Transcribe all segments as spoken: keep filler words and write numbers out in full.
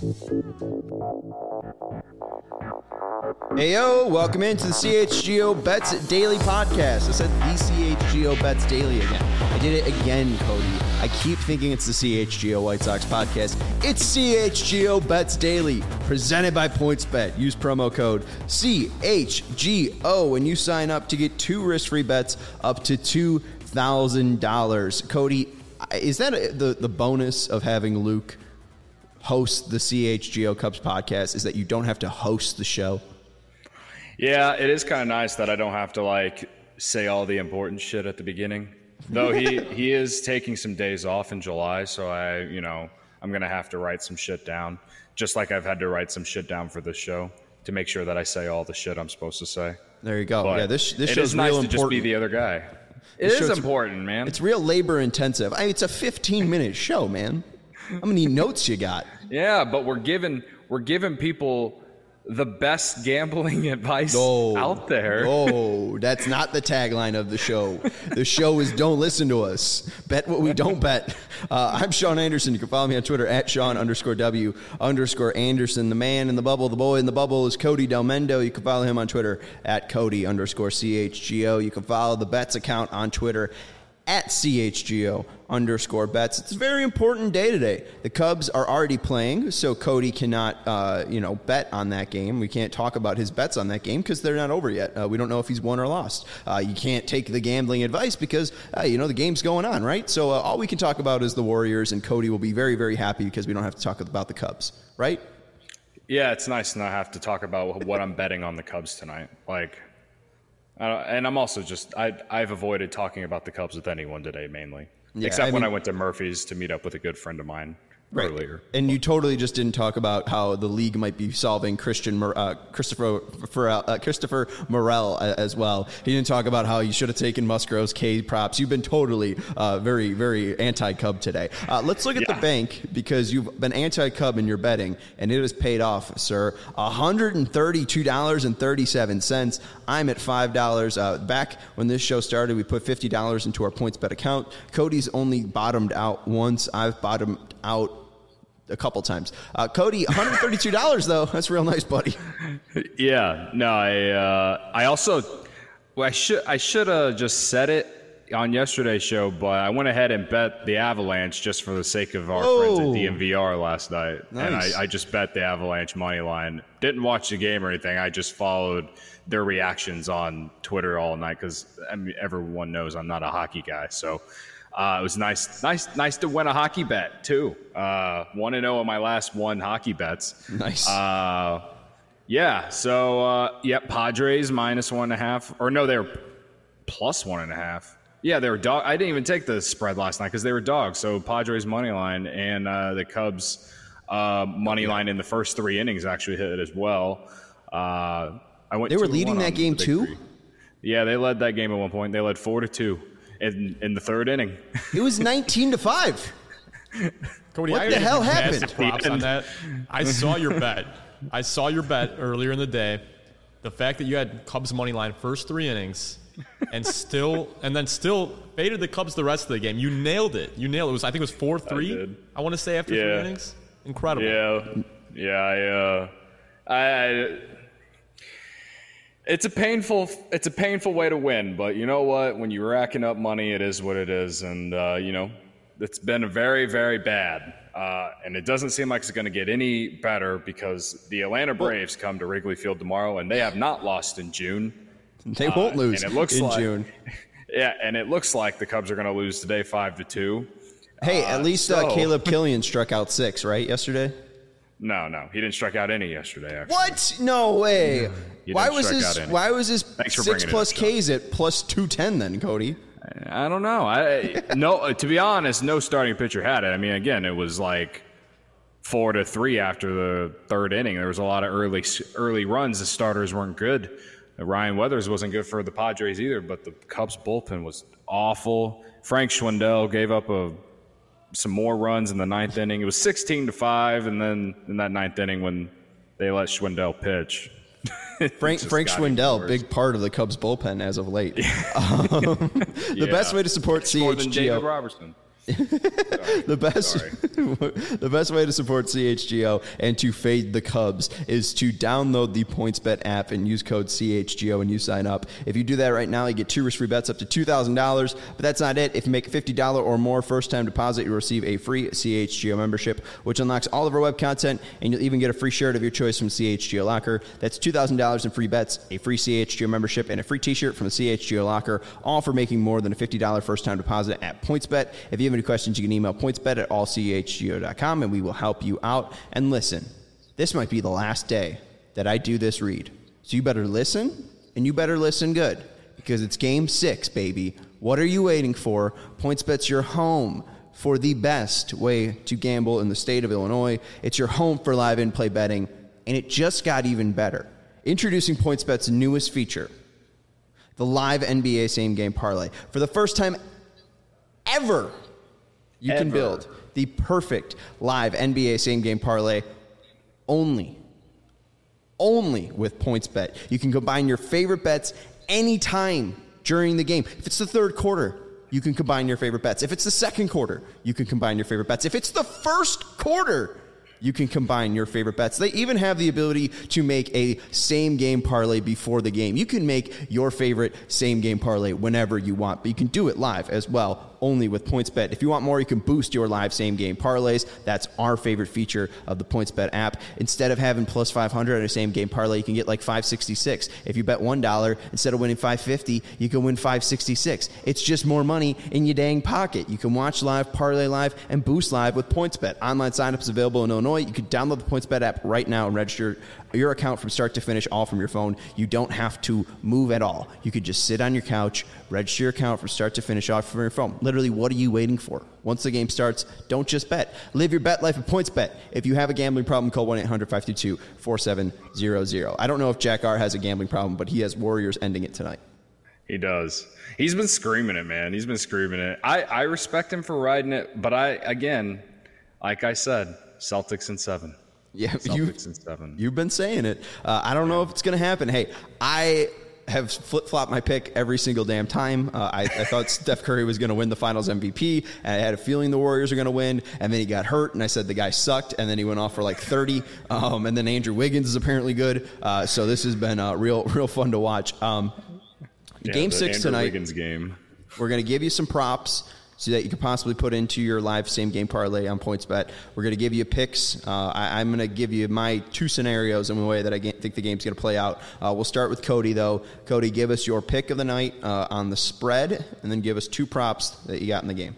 Hey yo, welcome into the C H G O Bets Daily Podcast. I said the C H G O Bets Daily again. I did it again, Cody. I keep thinking it's the C H G O White Sox Podcast. It's C H G O Bets Daily, presented by PointsBet. Use promo code C H G O when you sign up to get two risk-free bets up to two thousand dollars. Cody, is that a, the, the bonus of having Luke host the C H G O Cubs podcast, is that you don't have to host the show? Yeah, it is kind of nice that I don't have to like say all the important shit at the beginning. Though he, he is taking some days off in July, so I, you know, I'm going to have to write some shit down, just like I've had to write some shit down for this show to make sure that I say all the shit I'm supposed to say. There you go. But yeah, this this it show's is nice real to important. just be the other guy. It This is show's- important, man. It's real labor intensive. I mean, it's a fifteen minute show, man. How many notes you got? Yeah, but we're giving we're giving people the best gambling advice Oh, out there. Oh, that's not the tagline of the show. The show is don't listen to us. Bet what we don't bet. Uh, I'm Sean Anderson. You can follow me on Twitter at Sean underscore W underscore Anderson. The man in the bubble, the boy in the bubble is Cody Del Mendo. You can follow him on Twitter at Cody underscore C H G O. You can follow the Bets account on Twitter at C H G O underscore bets. It's a very important day today. The Cubs are already playing, so Cody cannot, uh, you know, bet on that game. We can't talk about his bets on that game because they're not over yet. Uh, we don't know if he's won or lost. Uh, you can't take the gambling advice because, uh, you know, the game's going on, right? So uh, all we can talk about is the Warriors, and Cody will be very, very happy because we don't have to talk about the Cubs, right? Yeah, it's nice to not have to talk about what I'm betting on the Cubs tonight. Like, Uh, and I'm also just, I, I've avoided talking about the Cubs with anyone today, mainly. Yeah, Except I when mean- I went to Murphy's to meet up with a good friend of mine Right. earlier. And you totally just didn't talk about how the league might be solving Christian Mor- uh, Christopher Farrell, uh, Christopher Morel uh, as well. He didn't talk about how you should have taken Musgrove's K props. You've been totally uh, very, very anti-Cub today. Uh, let's look at Yeah. the bank because you've been anti-Cub in your betting, and it has paid off, sir. one hundred thirty-two dollars and thirty-seven cents. I'm at five dollars. Uh, back when this show started, we put fifty dollars into our PointsBet account. Cody's only bottomed out once. I've bottomed out a couple times. Uh, Cody, one hundred thirty-two dollars though. That's real nice, buddy. Yeah, no, I uh, I also, well, I should I should have just said it on yesterday's show, but I went ahead and bet the Avalanche just for the sake of our Oh. friends at D M V R last night. And Nice. I, I just bet the Avalanche money line. Didn't watch the game or anything. I just followed their reactions on Twitter all night because I mean, everyone knows I'm not a hockey guy. So uh, it was nice, nice, nice to win a hockey bet too. Uh, one and zero on my last one hockey bets. Nice. Uh, yeah. So uh, yeah, Padres minus one and a half, or no, they're plus one and a half. Yeah, they were dog. I didn't even take the spread last night because they were dogs. So Padres money line and uh, the Cubs uh, money line in the first three innings actually hit it as well. Uh, I went. They were two to leading one that on game the too? victory. Yeah, they led that game at one point. They led four to two in in the third inning. It was nineteen to five. Cody, What I the gotta hell give you massive happened? Props on that. I saw your bet. I saw your bet earlier in the day. The fact that you had Cubs money line first three innings, and still, and then still faded the Cubs the rest of the game. You nailed it. You nailed it. It was I think it was four three. did. I, want to say after Yeah. three innings. Incredible. Yeah, yeah. I, uh, I, I, it's a painful, it's a painful way to win. But you know what? When you're racking up money, it is what it is, and uh, you know, it's been very, very bad. Uh, and it doesn't seem like it's going to get any better because the Atlanta Braves come to Wrigley Field tomorrow, and they have not lost in June. They won't Uh, lose and it looks in like, June. Yeah, and it looks like the Cubs are going to lose today, five to two. Hey, at least uh, so- Caleb Killian struck out six, right, yesterday? No, no, he didn't strike out any yesterday. Actually. What? No way. He Why didn't was strike his out any. Why was his Thanks for six bringing it plus up, Sean. Ks at plus two ten then, Cody? I don't know. I no. To be honest, no starting pitcher had it. I mean, again, it was like four to three after the third inning. There was a lot of early early runs. The starters weren't good. Ryan Weathers wasn't good for the Padres either, but the Cubs bullpen was awful. Frank Schwindel gave up a some more runs in the ninth inning. It was sixteen to five, and then in that ninth inning when they let Schwindel pitch. Frank just Frank got even Schwindel, worse. big part of the Cubs bullpen as of late. Um, the Yeah. best way to support More than C H G David O. Robertson. the best the best way to support C H G O and to fade the Cubs is to download the PointsBet app and use code C H G O when you sign up. If you do that right now, you get two risk-free bets up to two thousand dollars, but that's not it. If you make a fifty dollars or more first-time deposit, you'll receive a free C H G O membership, which unlocks all of our web content, and you'll even get a free shirt of your choice from C H G O Locker. That's two thousand dollars in free bets, a free C H G O membership, and a free t-shirt from the C H G O Locker, all for making more than a fifty dollars first-time deposit at PointsBet. If you have any questions, you can email pointsbet at all c h g o dot com, and we will help you out. And listen, this might be the last day that I do this read. So you better listen, and you better listen good, because it's game six, baby. What are you waiting for? PointsBet's your home for the best way to gamble in the state of Illinois. It's your home for live in-play betting, and it just got even better. Introducing PointsBet's newest feature, the live N B A same-game parlay. For the first time ever, you Ever. can build the perfect live N B A same-game parlay only, only with PointsBet. You can combine your favorite bets anytime during the game. If it's the third quarter, you can combine your favorite bets. If it's the second quarter, you can combine your favorite bets. If it's the first quarter, you can combine your favorite bets. They even have the ability to make a same-game parlay before the game. You can make your favorite same-game parlay whenever you want, but you can do it live as well, only with PointsBet. If you want more, you can boost your live same-game parlays. That's our favorite feature of the PointsBet app. Instead of having plus five hundred on a same-game parlay, you can get like five sixty-six. If you bet one dollar, instead of winning five fifty, you can win five sixty-six. It's just more money in your dang pocket. You can watch live, parlay live, and boost live with PointsBet. Online signups available in Illinois. You can download the PointsBet app right now and register your account from start to finish, all from your phone. You don't have to move at all. You could just sit on your couch, register your account from start to finish, off from your phone. Literally, what are you waiting for? Once the game starts, don't just bet. Live your bet life at PointsBet. If you have a gambling problem, call one eight hundred five two two four seven zero zero. I don't know if Jack R has a gambling problem, but he has Warriors ending it tonight. He does. He's been screaming it, man. He's been screaming it. I, I respect him for riding it, but I, again, like I said, Celtics in seven. Yeah, Celtics you, in seven. You've been saying it. Uh, I don't know if it's going to happen. Hey, I have flip-flopped my pick every single damn time. Uh, I, I thought Steph Curry was going to win the Finals M V P, and I had a feeling the Warriors were going to win, and then he got hurt, and I said the guy sucked, and then he went off for like thirty, um, and then Andrew Wiggins is apparently good. Uh, so this has been uh, real, real fun to watch. Um, Yeah, game the six Andrew tonight. Wiggins game. We're going to give you some props so that you can possibly put into your live same-game parlay on PointsBet. We're going to give you picks. Uh, I, I'm going to give you my two scenarios in the way that I ga- think the game's going to play out. Uh, we'll start with Cody, though. Cody, give us your pick of the night uh, on the spread, and then give us two props that you got in the game.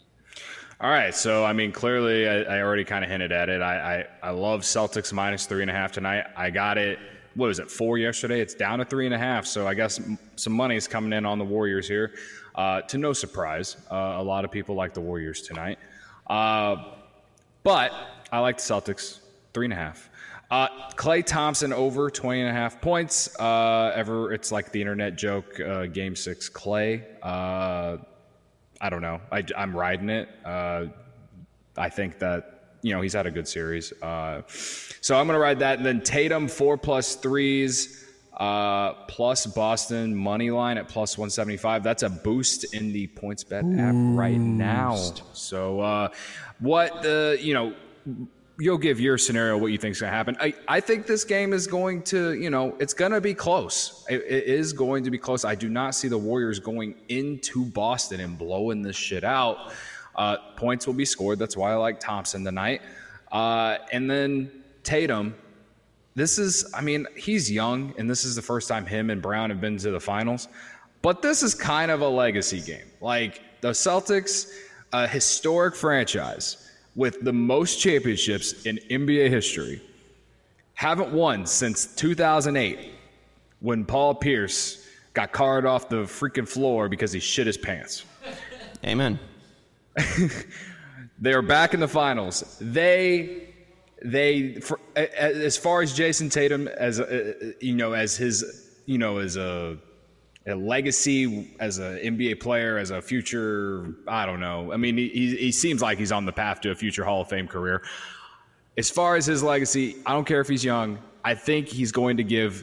All right, so, I mean, clearly I, I already kind of hinted at it. I, I, I love Celtics minus three and a half tonight. I got it. What was it, four yesterday? It's down to three and a half, so I guess some money is coming in on the Warriors here. Uh, to no surprise, uh, a lot of people like the Warriors tonight. Uh, but I like the Celtics, three and a half. Uh, Klay Thompson over twenty and a half points. Uh, ever, it's like the internet joke, uh, game six Klay. Uh, I don't know. I, I'm riding it. Uh, I think that, you know, he's had a good series. Uh, so I'm going to ride that. And then Tatum, four plus threes. Uh, plus Boston money line at plus one seventy-five. That's a boost in the PointsBet app right now. So, uh, what the, you know, you'll give your scenario what you think is going to happen. I, I think this game is going to, you know, it's going to be close. It, it is going to be close. I do not see the Warriors going into Boston and blowing this shit out. Uh, points will be scored. That's why I like Thompson tonight. Uh, and then Tatum. This is, I mean, he's young, and this is the first time him and Brown have been to the finals. But this is kind of a legacy game. Like, the Celtics, a historic franchise with the most championships in N B A history, haven't won since two thousand eight when Paul Pierce got carted off the freaking floor because he shit his pants. Amen. They are back in the finals. They... They, for, as far as Jason Tatum, as a, you know, as his, you know, as a, a legacy, as an N B A player, as a future, I don't know. I mean, he he seems like he's on the path to a future Hall of Fame career. As far as his legacy, I don't care if he's young. I think he's going to give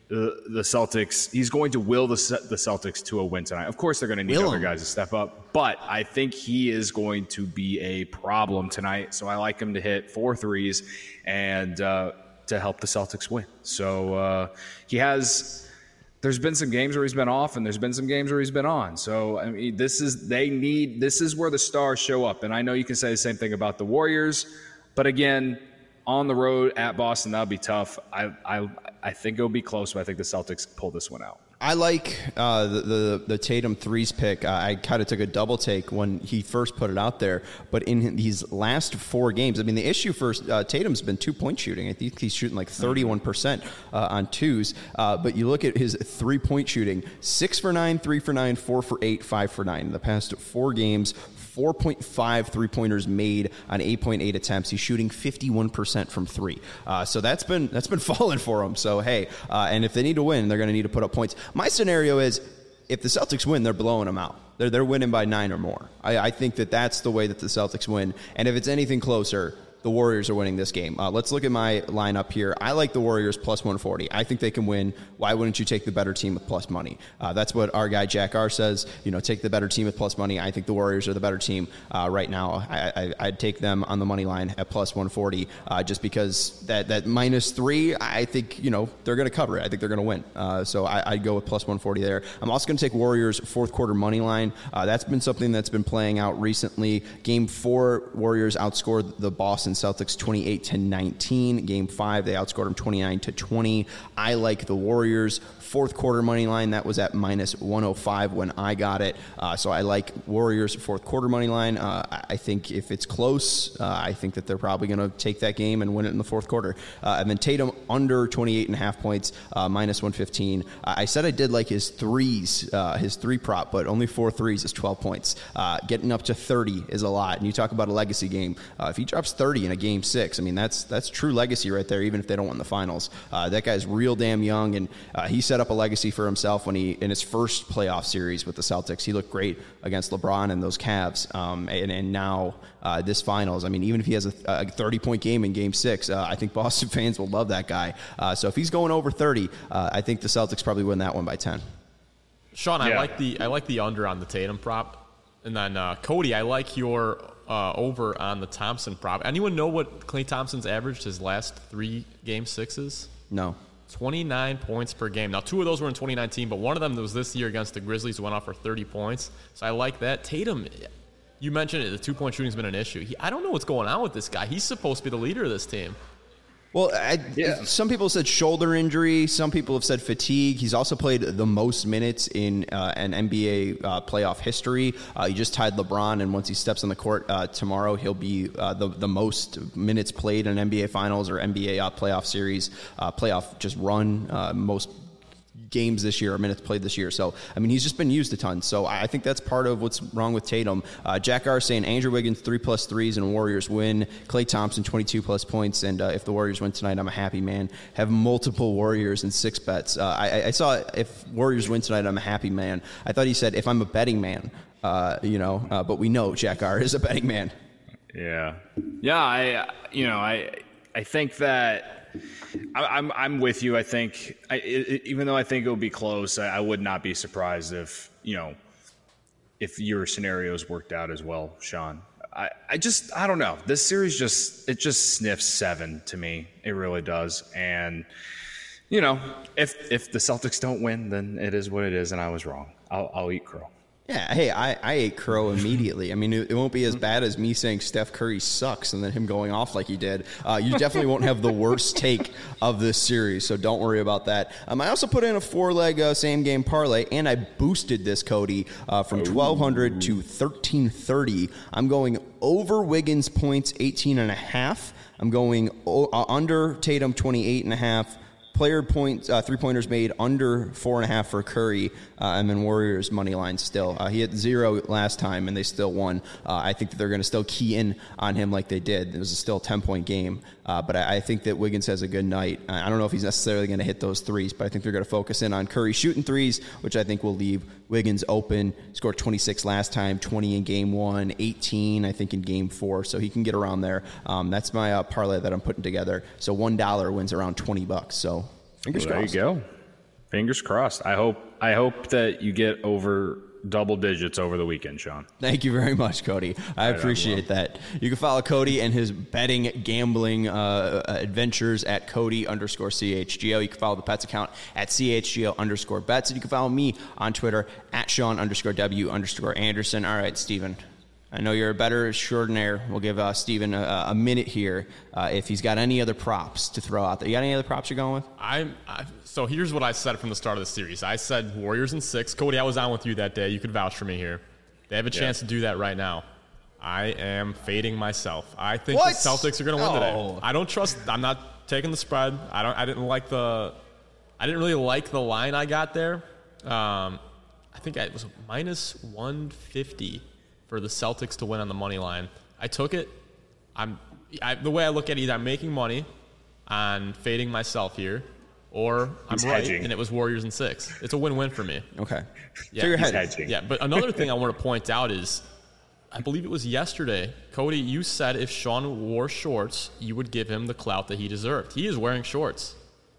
the, the Celtics, he's going to will the, the Celtics to a win tonight. Of course, they're going to need Will other him. guys to step up, but I think he is going to be a problem tonight. So I like him to hit four threes and uh, to help the Celtics win. So uh, he has, there's been some games where he's been off and there's been some games where he's been on. So, I mean, this is, they need, this is where the stars show up. And I know you can say the same thing about the Warriors, but again, on the road at Boston, that'll be tough. I, I, I think it'll be close, but I think the Celtics pull this one out. I like uh, the, the the Tatum threes pick. Uh, I kind of took a double take when he first put it out there. But in these last four games, I mean, the issue for uh, Tatum's been two-point shooting. I think he's shooting like thirty-one percent uh, on twos. Uh, but you look at his three-point shooting, six for nine, three for nine, four for eight, five for nine. In the past four games, four point five three-pointers made on eight point eight attempts. He's shooting fifty-one percent from three. Uh, so that's been that's been falling for him. So, hey, uh, and if they need to win, they're going to need to put up points. My scenario is if the Celtics win, they're blowing them out. They're, they're winning by nine or more. I, I think that that's the way that the Celtics win. And if it's anything closer, the Warriors are winning this game. Uh, let's look at my lineup here. I like the Warriors plus one forty. I think they can win. Why wouldn't you take the better team with plus money? Uh, that's what our guy Jack R says. You know, take the better team with plus money. I think the Warriors are the better team uh, right now. I, I, I'd take them on the money line at plus one forty uh, just because that, that minus three, I think, you know, they're going to cover it. I think they're going to win. Uh, so I, I'd go with plus one forty there. I'm also going to take Warriors fourth quarter money line. Uh, that's been something that's been playing out recently. Game four, Warriors outscored the Boston Celtics twenty-eight to nineteen. Game five, they outscored them twenty-nine to twenty. I like the Warriors fourth quarter money line. That was at minus one oh five when I got it. Uh, so I like Warriors fourth quarter money line. Uh, I think if it's close, uh, I think that they're probably going to take that game and win it in the fourth quarter. Uh, and then Tatum under twenty-eight and a half points, uh, minus one fifteen. Uh, I said I did like his threes, uh, his three prop, but only four threes is twelve points. Uh, getting up to thirty is a lot. And you talk about a legacy game. Uh, if he drops thirty in a game six, I mean, that's that's true legacy right there, even if they don't win the finals. Uh, that guy's real damn young, and uh, he set up a legacy for himself when he, in his first playoff series with the Celtics, he looked great against LeBron and those Cavs. Um, and, and now uh, this finals, I mean, even if he has a, a thirty-point game in game six, uh, I think Boston fans will love that guy. Uh, so if he's going over thirty, uh, I think the Celtics probably win that one by ten. Sean, I Yeah. like the I like the under on the Tatum prop. And then uh, Cody, I like your uh, over on the Thompson prop. Anyone know what Klay Thompson's averaged his last three game sixes? No. twenty-nine points per game. Now, two of those were in twenty nineteen, but one of them was this year against the Grizzlies, who went off for thirty points. So I like that. Tatum, you mentioned it, the two-point shooting's been an issue. He, I don't know what's going on with this guy. He's supposed to be the leader of this team. Well, I, Yeah. some people said shoulder injury. Some people have said fatigue. He's also played the most minutes in uh, an N B A uh, playoff history. Uh, he just tied LeBron, and once he steps on the court uh, tomorrow, he'll be uh, the the most minutes played in an N B A Finals or N B A uh, playoff series, uh, playoff just run, uh, most games this year or minutes played this year. So, I mean, he's just been used a ton. So I think that's part of what's wrong with Tatum. Uh, Jack R saying Andrew Wiggins three plus threes and Warriors win. Klay Thompson twenty-two plus points. And uh, if the Warriors win tonight, I'm a happy man. Have multiple Warriors and six bets. Uh, I, I saw if Warriors win tonight, I'm a happy man. I thought he said if I'm a betting man, uh, you know, uh, but we know Jack R is a betting man. Yeah, yeah. I, you know, I, I think that I, I'm, I'm with you. I think, I, it, even though I think it will be close, I, I would not be surprised if, you know, if your scenarios worked out as well, Sean. I, I just, I don't know. This series just, it just sniffs seven to me. It really does. And, you know, if if the Celtics don't win, then it is what it is, and I was wrong. I'll, I'll eat crow. Yeah, hey, I, I ate crow immediately. I mean, it, it won't be as bad as me saying Steph Curry sucks and then him going off like he did. Uh, you definitely won't have the worst take of this series, so don't worry about that. Um, I also put in a four-leg uh, same-game parlay, and I boosted this, Cody, uh, from twelve hundred to thirteen thirty. I'm going over Wiggins points, eighteen and a half. I'm going o- uh, under Tatum, twenty-eight and a half. Player points, uh, three-pointers made under four and a half for Curry, uh, and then Warriors money line still. Uh, he hit zero last time, and they still won. Uh, I think that they're going to still key in on him like they did. It was a still ten-point game, uh, but I, I think that Wiggins has a good night. I don't know if he's necessarily going to hit those threes, but I think they're going to focus in on Curry shooting threes, which I think will leave Wiggins open. Scored twenty-six last time, twenty in game one, eighteen I think in game four, so he can get around there. Um, that's my uh, parlay that I'm putting together. So one dollar wins around twenty bucks. So fingers Well, there crossed. you go. Fingers crossed. I hope I hope that you get over double digits over the weekend, Sean. Thank you very much, Cody. I appreciate that. You can follow Cody and his betting, gambling uh, adventures at Cody underscore C H G O. You can follow the Pets account at C H G O underscore bets. And you can follow me on Twitter at Sean underscore W underscore Anderson. All right, Steven. I know you're a better extraordinaire. We'll give uh, Steven a, a minute here uh, if he's got any other props to throw out there. You got any other props you're going with? I'm, I, so here's what I said from the start of the series. I said Warriors in six. Cody, I was on with you that day. You could vouch for me here. They have a chance yeah. to do that right now. I am fading myself. I think what? the Celtics are going to win no. today. I don't trust. I'm not taking the spread. I don't. I didn't like the. I didn't really like the line I got there. Um, I think it was minus one fifty. For the Celtics to win on the money line. I took it. I'm I, the way I look at it, either I'm making money on fading myself here, or I'm He's right, hedging. and it was Warriors in six. It's a win-win for me. Okay. Yeah, so you're he's hedging. hedging. Yeah, but another thing I want to point out is, I believe it was yesterday, Cody, you said if Sean wore shorts, you would give him the clout that he deserved. He is wearing shorts.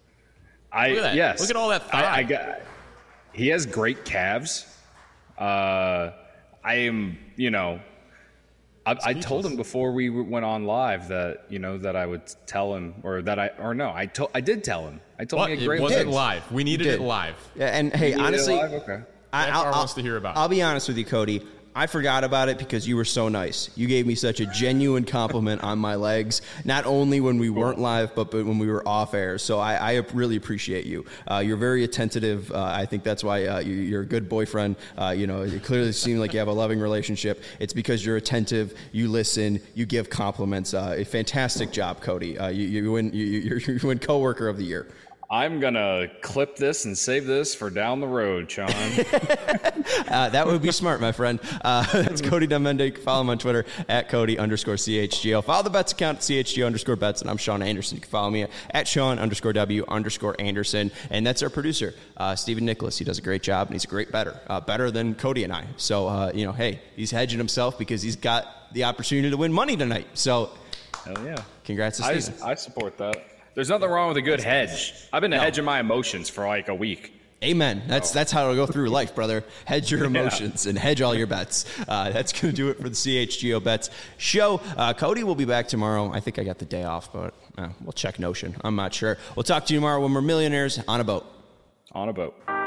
I Look at that. yes. Look at all that thigh. I, I got. He has great calves. Uh, I am, you know, I, I told him before we went on live that, you know, that I would tell him, or that I, or no, I told, I did tell him. I told But him he had it great wasn't legs. live. We needed it live. Yeah, and hey, You needed it honestly, live? Okay. I, F R wants to hear about it. I'll be honest with you, Cody. I forgot about it because you were so nice. You gave me such a genuine compliment on my legs, not only when we weren't live, but, but when we were off air. So I, I really appreciate you. Uh, you're very attentive. Uh, I think that's why uh, you, you're a good boyfriend. Uh, you know, it clearly seems like you have a loving relationship. It's because you're attentive, you listen, you give compliments. Uh, a fantastic job, Cody. Uh, you, you win. You, you, you win coworker of the year. I'm going to clip this and save this for down the road, Sean. uh, that would be smart, my friend. Uh, that's Cody Demende. You can follow him on Twitter at Cody underscore C H G O. Follow the Bets account at C H G O underscore Bets, and I'm Sean Anderson. You can follow me at Sean underscore W underscore Anderson. And that's our producer, uh, Stephen Nicholas. He does a great job, and he's a great bettor, uh, better than Cody and I. So, uh, you know, hey, he's hedging himself because he's got the opportunity to win money tonight. So, Hell yeah. Congrats to I, Stephen. I support that. There's nothing wrong with a good hedge. I've been no. hedging my emotions for like a week. Amen. That's that's how to go through life, brother. Hedge your emotions yeah. and hedge all your bets. Uh, that's going to do it for the C H G O Bets show. Uh, Cody will be back tomorrow. I think I got the day off, but uh, we'll check Notion. I'm not sure. We'll talk to you tomorrow when we're millionaires on a boat. On a boat.